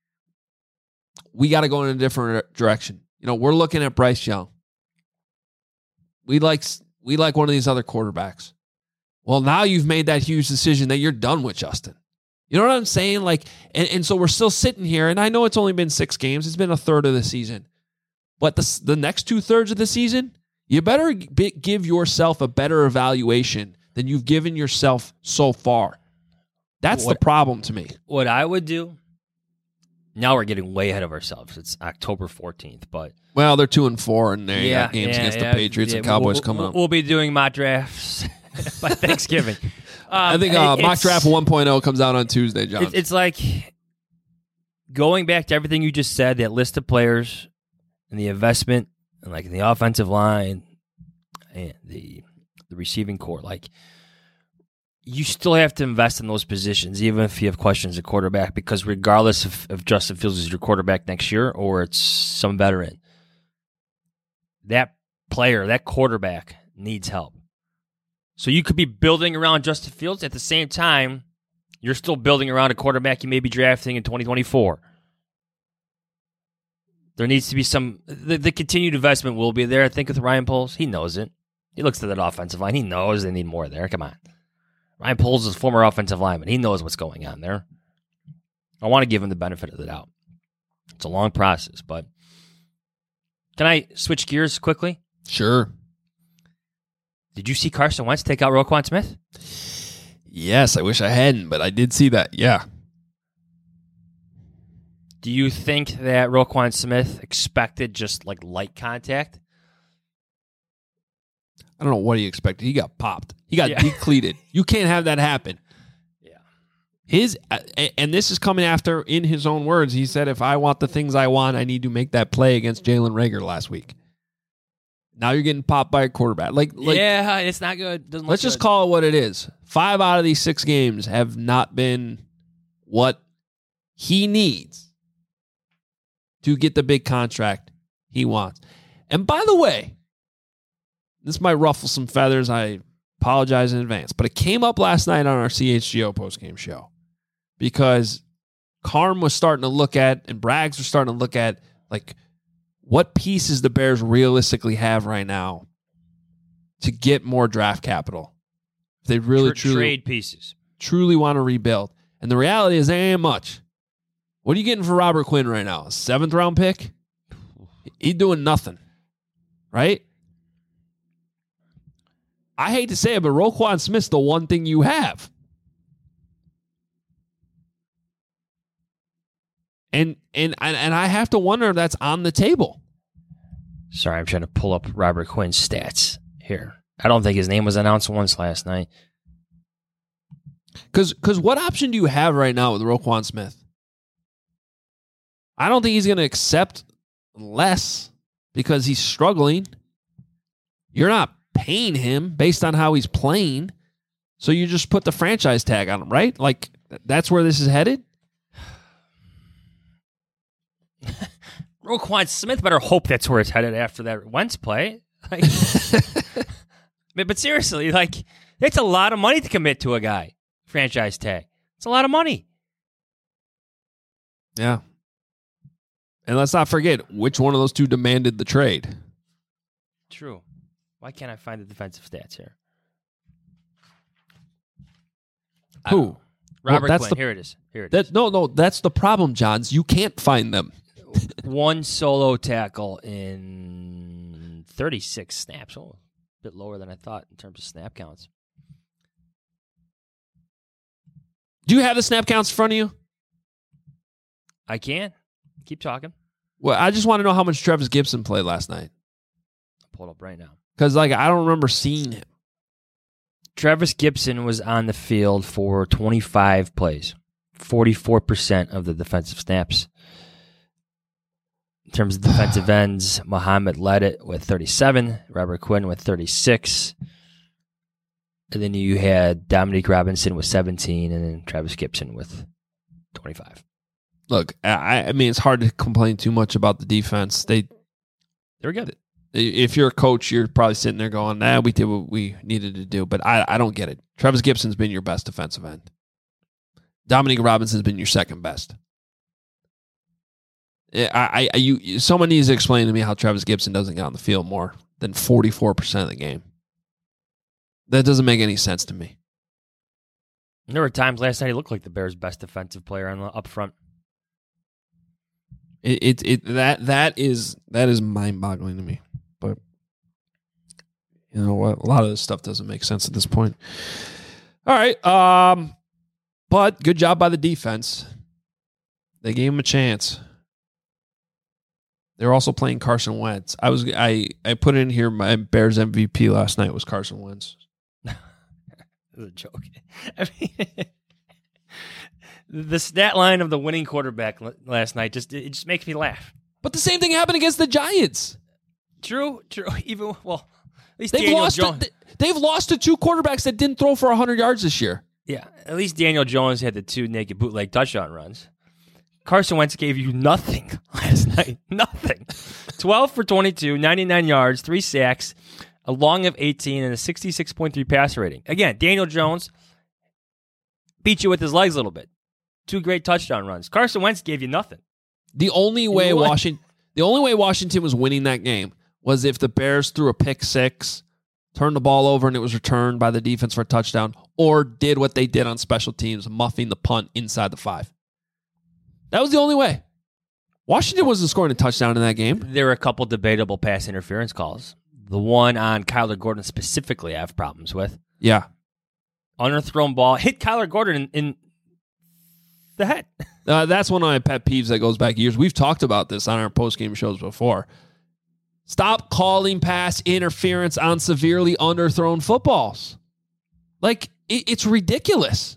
We got to go in a different direction. You know, we're looking at Bryce Young. We like, we like one of these other quarterbacks. Well, now you've made that huge decision that you're done with Justin. You know what I'm saying? Like, and, and so we're still sitting here, and I know it's only been six games. It's been a third of the season. But the, the next two thirds of the season, you better g- give yourself a better evaluation than you've given yourself so far. That's what, the problem to me. What I would do, now we're getting way ahead of ourselves. It's October fourteenth, but... Well, they're two and four, and they yeah, got games yeah, against yeah, the Patriots yeah, and Cowboys we'll, coming we'll, up. We'll be doing mock drafts by Thanksgiving. Um, I think uh, mock draft one point oh comes out on Tuesday, John. It, it's like going back to everything you just said, that list of players and the investment, and like in the offensive line and the the receiving core. Like, you still have to invest in those positions, even if you have questions at quarterback, because regardless if, if Justin Fields is your quarterback next year or it's some veteran, that player, that quarterback needs help. So you could be building around Justin Fields. At the same time, you're still building around a quarterback you may be drafting in twenty twenty-four. There needs to be some... The, the continued investment will be there. I think with Ryan Poles, he knows it. He looks at that offensive line. He knows they need more there. Come on. Ryan Poles is a former offensive lineman. He knows what's going on there. I want to give him the benefit of the doubt. It's a long process, but... Can I switch gears quickly? Sure. Did you see Carson Wentz take out Roquan Smith? Yes, I wish I hadn't, but I did see that, yeah. Do you think that Roquan Smith expected just like light contact? I don't know what he expected. He got popped. He got Yeah. decleated. You can't have that happen. Yeah. His uh, and this is coming after, in his own words, he said, if I want the things I want, I need to make that play against Jalen Reagor last week. Now you're getting popped by a quarterback. Like, like yeah, it's not good. Doesn't let's look just good. call it what it is. Five out of these six games have not been what he needs to get the big contract he wants. And by the way, this might ruffle some feathers. I apologize in advance. But it came up last night on our C H G O postgame show because Carm was starting to look at, and Braggs was starting to look at, like, what pieces the Bears realistically have right now to get more draft capital. If they really, Tra- truly, trade pieces. truly want to rebuild. And the reality is there ain't much. What are you getting for Robert Quinn right now? A seventh round pick? He's doing nothing. Right? I hate to say it, but Roquan Smith's the one thing you have. And and and I have to wonder if that's on the table. Sorry, I'm trying to pull up Robert Quinn's stats here. I don't think his name was announced once last night. Because because what option do you have right now with Roquan Smith? I don't think he's going to accept less because he's struggling. You're not paying him based on how he's playing, so you just put the franchise tag on him, right? Like, that's where this is headed? Roquan Smith better hope that's where it's headed after that Wentz play. Like, but, but seriously, like, it's a lot of money to commit to a guy. Franchise tag. It's a lot of money. Yeah. And let's not forget which one of those two demanded the trade. True. Why can't I find the defensive stats here? Who? Robert Well, that's Quinn. the- Here it is. Here it That is. no, no, that's the problem, Johns. You can't find them. One solo tackle in thirty-six snaps. Oh, a bit lower than I thought in terms of snap counts. Do you have the snap counts in front of you? I can. Keep talking. Well, I just want to know how much Travis Gibson played last night. I'll pull it up right now. Because, like, I don't remember seeing him. Travis Gibson was on the field for twenty-five plays, forty-four percent of the defensive snaps. In terms of defensive ends, Muhammad led it with thirty-seven, Robert Quinn with thirty-six, and then you had Dominique Robinson with seventeen, and then Travis Gibson with twenty-five. Look, I, I mean, it's hard to complain too much about the defense. They, They're good. if you're a coach, you're probably sitting there going, nah, we did what we needed to do. But I, I don't get it. Travis Gibson's been your best defensive end. Dominique Robinson's been your second best. I, I, you, someone needs to explain to me how Travis Gibson doesn't get on the field more than forty-four percent of the game. That doesn't make any sense to me. There were times last night he looked like the Bears' best defensive player on the up front. It, it it that that is that is mind-boggling to me. But you know what? A lot of this stuff doesn't make sense at this point. All right, um, but good job by the defense. They gave him a chance. They're also playing Carson Wentz. I was I I put in here my Bears M V P last night was Carson Wentz. It was a joke. I mean, the stat line of the winning quarterback last night just it just makes me laugh. But the same thing happened against the Giants. True, true. Even well, at least they've Daniel lost. Jones. To, they've lost to two quarterbacks that didn't throw for a hundred yards this year. Yeah, at least Daniel Jones had the two naked bootleg touchdown runs. Carson Wentz gave you nothing last night. Nothing. twelve for twenty-two, ninety-nine yards, three sacks, a long of eighteen, and a sixty-six point three passer rating. Again, Daniel Jones beat you with his legs a little bit. Two great touchdown runs. Carson Wentz gave you nothing. The only way Washington, the only way Washington was winning that game was if the Bears threw a pick six, turned the ball over, and it was returned by the defense for a touchdown, or did what they did on special teams, muffing the punt inside the five. That was the only way. Washington wasn't scoring a touchdown in that game. There were a couple debatable pass interference calls. The one on Kyler Gordon specifically I have problems with. Yeah. Underthrown ball. Hit Kyler Gordon in, in the head. Uh, that's one of my pet peeves that goes back years. We've talked about this on our post-game shows before. Stop calling pass interference on severely underthrown footballs. Like, it, it's ridiculous.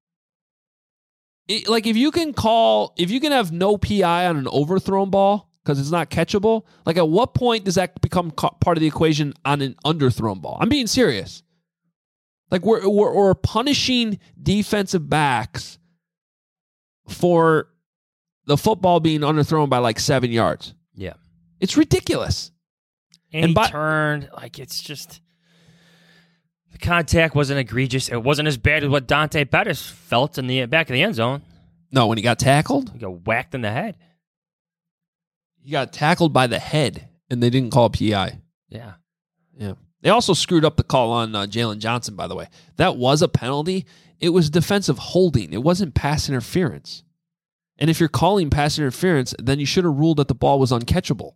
It, like, if you can call, if you can have no P I on an overthrown ball because it's not catchable, like, at what point does that become co- part of the equation on an underthrown ball? I'm being serious. Like, we're, we're, we're punishing defensive backs for the football being underthrown by like seven yards. Yeah. It's ridiculous. And, and he by, turned, like, it's just, the contact wasn't egregious. It wasn't as bad as what Dante Pettis felt in the back of the end zone. No, when he got tackled? He got whacked in the head. He got tackled by the head, and they didn't call P I. Yeah. Yeah. They also screwed up the call on uh, Jalen Johnson, by the way. That was a penalty. It was defensive holding. It wasn't pass interference. And if you're calling pass interference, then you should have ruled that the ball was uncatchable.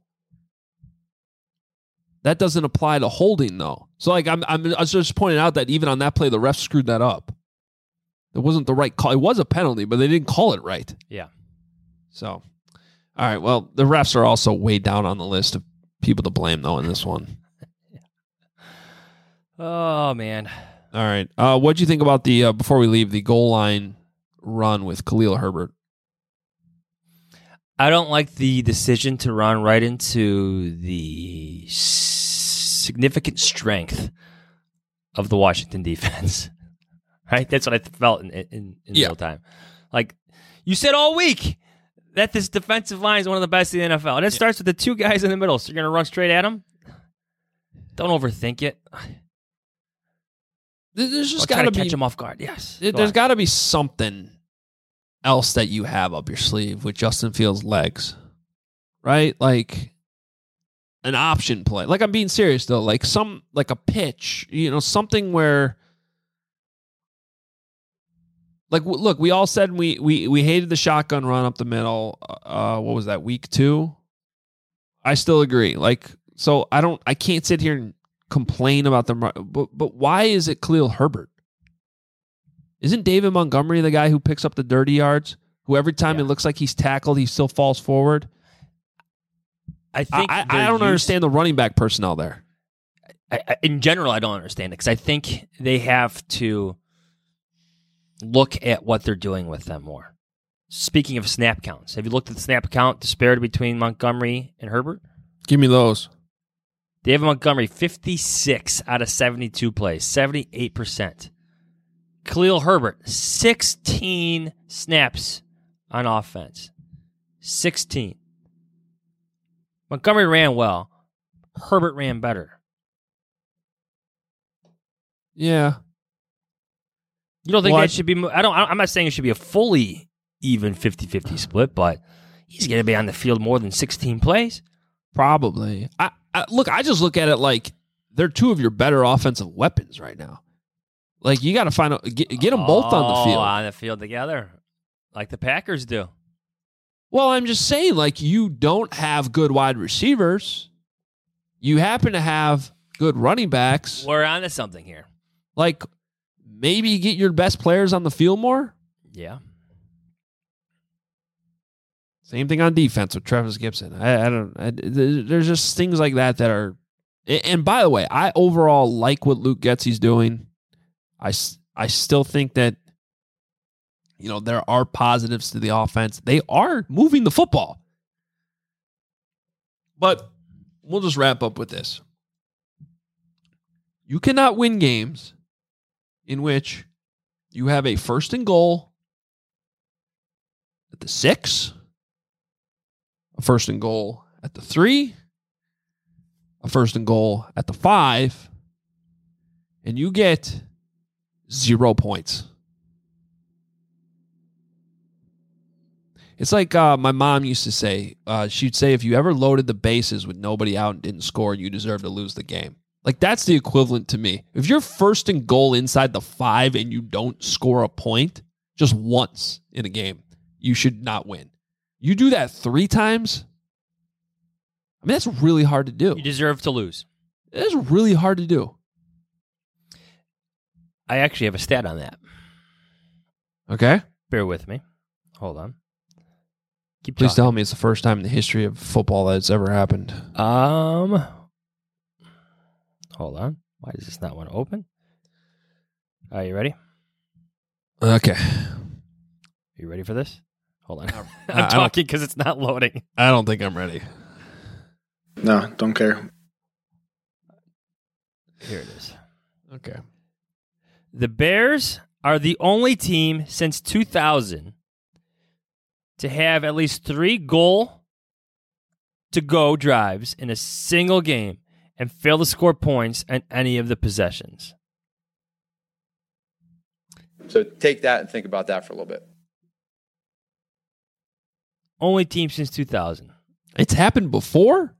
That doesn't apply to holding, though. So, like, I'm, I'm, I was just pointing out that even on that play, the refs screwed that up. It wasn't the right call. It was a penalty, but they didn't call it right. Yeah. So, all right. Well, the refs are also way down on the list of people to blame, though, in this one. Oh, man. All right. Uh, what do you think about the, uh, before we leave, the goal line run with Khalil Herbert? I don't like the decision to run right into the significant strength of the Washington defense. Right? That's what I felt in, in, in yeah. real time. Like, you said all week that this defensive line is one of the best in the N F L. And it yeah. starts with the two guys in the middle. So you're going to run straight at them? Don't overthink it. There's just got to catch him off guard. Yes. There, there's got to be something else that you have up your sleeve with Justin Fields' legs, right? Like an option play. Like, I'm being serious though. Like some, like a pitch, you know, something where, like, w- look, we all said we we we hated the shotgun run up the middle. Uh, what was that, week two? I still agree. Like, so I don't, I can't sit here and complain about them, but but why is it Khalil Herbert? Isn't David Montgomery the guy who picks up the dirty yards? Who every time yeah. it looks like he's tackled, he still falls forward? I think I, I, I don't used, understand the running back personnel there. I, I, in general, I don't understand it because I think they have to look at what they're doing with them more. Speaking of snap counts, have you looked at the snap count disparity between Montgomery and Herbert? Give me those. David Montgomery, fifty-six out of seventy-two plays, seventy-eight percent. Khalil Herbert, sixteen snaps on offense. sixteen. Montgomery ran well. Herbert ran better. Yeah. You don't think well, that should be... I don't, I'm not saying it should be a fully even fifty-fifty split, but he's going to be on the field more than sixteen plays. Probably. I, I, look, I just look at it like they're two of your better offensive weapons right now. Like, you got to find a, get, get them both on the field. Oh, on the field together, like the Packers do. Well, I'm just saying, like, you don't have good wide receivers. You happen to have good running backs. We're on to something here. Like, maybe get your best players on the field more. Yeah. Same thing on defense with Travis Gibson. I, I don't. I, there's just things like that that are. And by the way, I overall like what Luke Getsy's doing. I, I still think that, you know, there are positives to the offense. They are moving the football. But we'll just wrap up with this. You cannot win games in which you have a first and goal at the six, a first and goal at the three, a first and goal at the five, and you get zero points. It's like uh, my mom used to say. Uh, she'd say, if you ever loaded the bases with nobody out and didn't score, you deserve to lose the game. Like, that's the equivalent to me. If you're first and goal inside the five and you don't score a point just once in a game, you should not win. You do that three times, I mean, that's really hard to do. You deserve to lose. It's really hard to do. I actually have a stat on that. Okay. Bear with me. Hold on. Keep Please talking. tell me it's the first time in the history of football that it's ever happened. Um, hold on. Why does this not want to open? Are you ready? Okay. Are you ready for this? Hold on. I I'm talking because it's not loading. I don't think I'm ready. No, don't care. Here it is. Okay. The Bears are the only team since two thousand to have at least three goal to go drives in a single game and fail to score points on any of the possessions. So take that and think about that for a little bit. Only team since two thousand. It's happened before?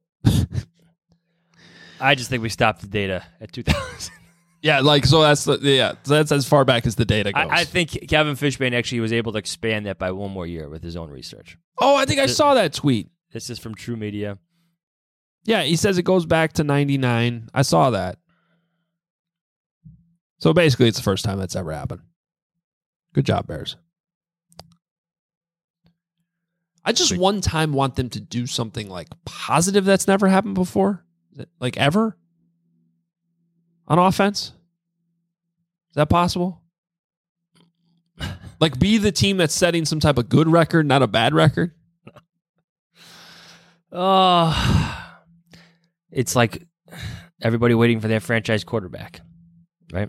I just think we stopped the data at two thousand. Yeah, like, so that's the, yeah, so that's as far back as the data goes. I, I think Kevin Fishbane actually was able to expand that by one more year with his own research. Oh, I think I This- saw that tweet. This is from True Media. Yeah, he says it goes back to ninety-nine. I saw that. So basically, it's the first time that's ever happened. Good job, Bears. I just one time want them to do something like positive that's never happened before. Like ever? On offense? Is that possible? Like, be the team that's setting some type of good record, not a bad record? Oh, it's like everybody waiting for their franchise quarterback, right?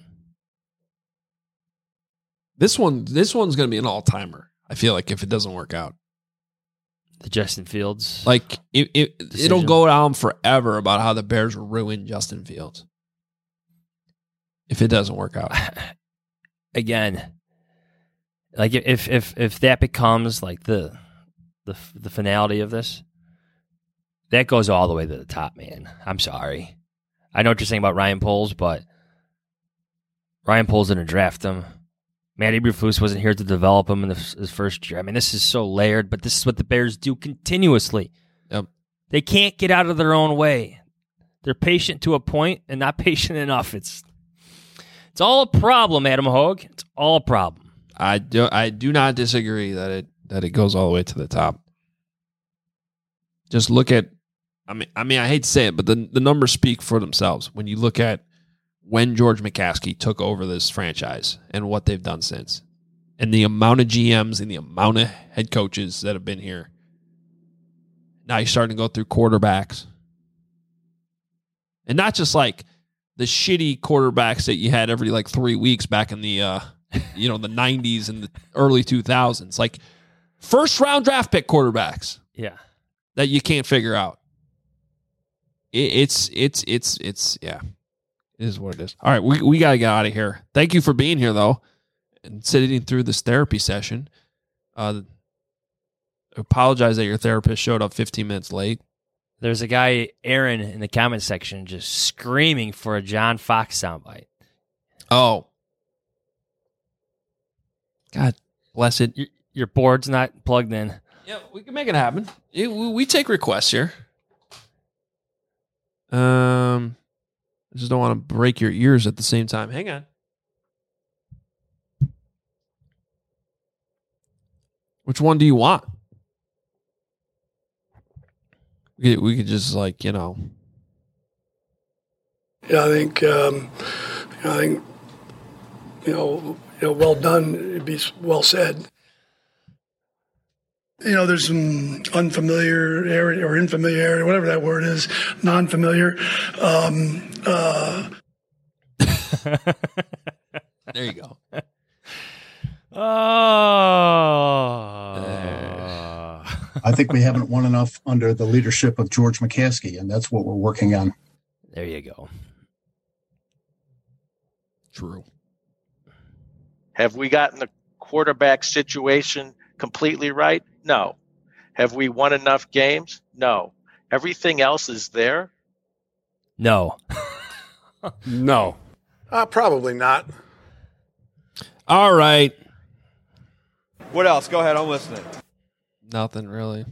This one, this one's going to be an all-timer, I feel like, if it doesn't work out. The Justin Fields. Like, it, it, decision. it'll go down forever about how the Bears ruined Justin Fields if it doesn't work out. Again, like if if if that becomes like the the the finality of this, that goes all the way to the top, man. I'm sorry. I know what you're saying about Ryan Poles, but Ryan Poles didn't draft him. Matt Eberflus wasn't here to develop him in the, his first year. I mean, this is so layered, but this is what the Bears do continuously. Yep. They can't get out of their own way. They're patient to a point and not patient enough. It's it's all a problem, Adam Hogue. It's all a problem. I do I do not disagree that it that it goes all the way to the top. Just look at I mean I mean I hate to say it, but the the numbers speak for themselves. When you look at when George McCaskey took over this franchise and what they've done since, and the amount of G Ms and the amount of head coaches that have been here. Now you're starting to go through quarterbacks. And not just like the shitty quarterbacks that you had every like three weeks back in the uh, you know, the nineties and the early two thousands. Like first round draft pick quarterbacks. Yeah. That you can't figure out. It, it's it's it's it's yeah. It is what it is. All right, we we gotta get out of here. Thank you for being here though, and sitting through this therapy session. Uh, I apologize that your therapist showed up fifteen minutes late. There's a guy, Aaron, in the comment section just screaming for a John Fox soundbite. Oh, God bless it. Your, your board's not plugged in. Yeah, we can make it happen. It, we, we take requests here. Um, I just don't want to break your ears at the same time. Hang on. Which one do you want? We could, we could just like, you know. Yeah, I think, um, I think, you know, you know, well done. It'd be well said. You know, there's some unfamiliar area or infamiliarity, whatever that word is, non-familiar. Um, uh, there you go. Oh. I think we haven't won enough under the leadership of George McCaskey, and that's what we're working on. There you go. True. Have we gotten the quarterback situation completely right? No. Have we won enough games? No. Everything else is there? No. No. uh, probably not. All right. What else? Go ahead. I'm listening. Nothing really.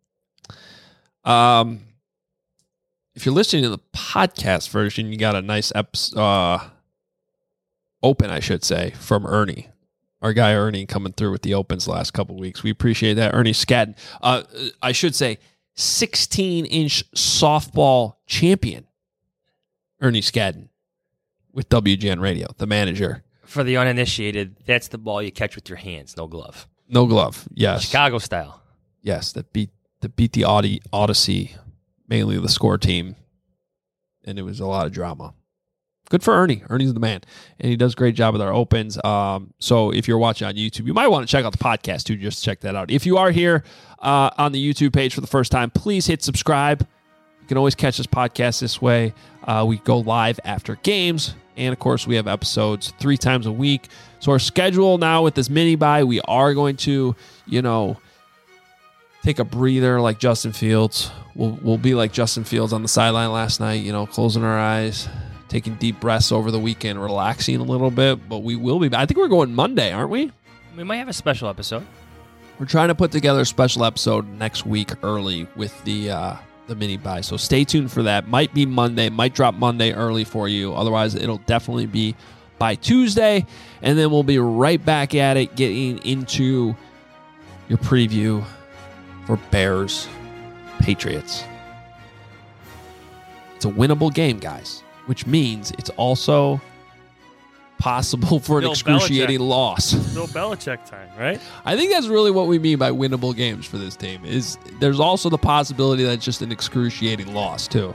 Um, if you're listening to the podcast version, you got a nice episode, uh, open, I should say, from Ernie. Our guy Ernie coming through with the opens the last couple of weeks. We appreciate that. Ernie Skadden. Uh, I should say sixteen-inch softball champion. Ernie Skadden with W G N Radio, the manager. For the uninitiated, that's the ball you catch with your hands, no glove. No glove, yes. Chicago style. Yes, that beat that beat the Audi, Odyssey, mainly the score team. And it was a lot of drama. Good for Ernie. Ernie's the man. And he does a great job with our opens. Um, so if you're watching on YouTube, you might want to check out the podcast too, just to check that out. If you are here uh, on the YouTube page for the first time, please hit subscribe. You can always catch this podcast this way. Uh, we go live after games. And, of course, we have episodes three times a week. So our schedule now with this mini-bye, we are going to, you know, take a breather like Justin Fields. We'll, we'll be like Justin Fields on the sideline last night, you know, closing our eyes, taking deep breaths over the weekend, relaxing a little bit. But we will be back. I think we're going Monday, aren't we? We might have a special episode. We're trying to put together a special episode next week early with the uh, the mini buy. So stay tuned for that. Might be Monday. Might drop Monday early for you. Otherwise, it'll definitely be by Tuesday. And then we'll be right back at it, getting into your preview for Bears Patriots. It's a winnable game, guys, which means it's also possible for Bill an excruciating Belichick. loss. Bill Belichick time, right? I think that's really what we mean by winnable games for this team. Is there's also the possibility that it's just an excruciating loss too.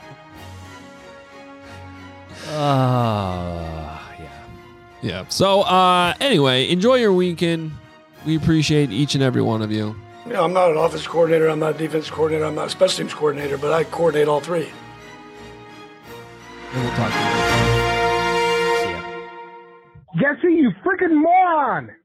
Uh, yeah. Yeah. So uh, anyway, enjoy your weekend. We appreciate each and every one of you. You know, I'm not an offense coordinator. I'm not a defense coordinator. I'm not a special teams coordinator, but I coordinate all three. And we'll talk to you later. Jesse, you freaking moron!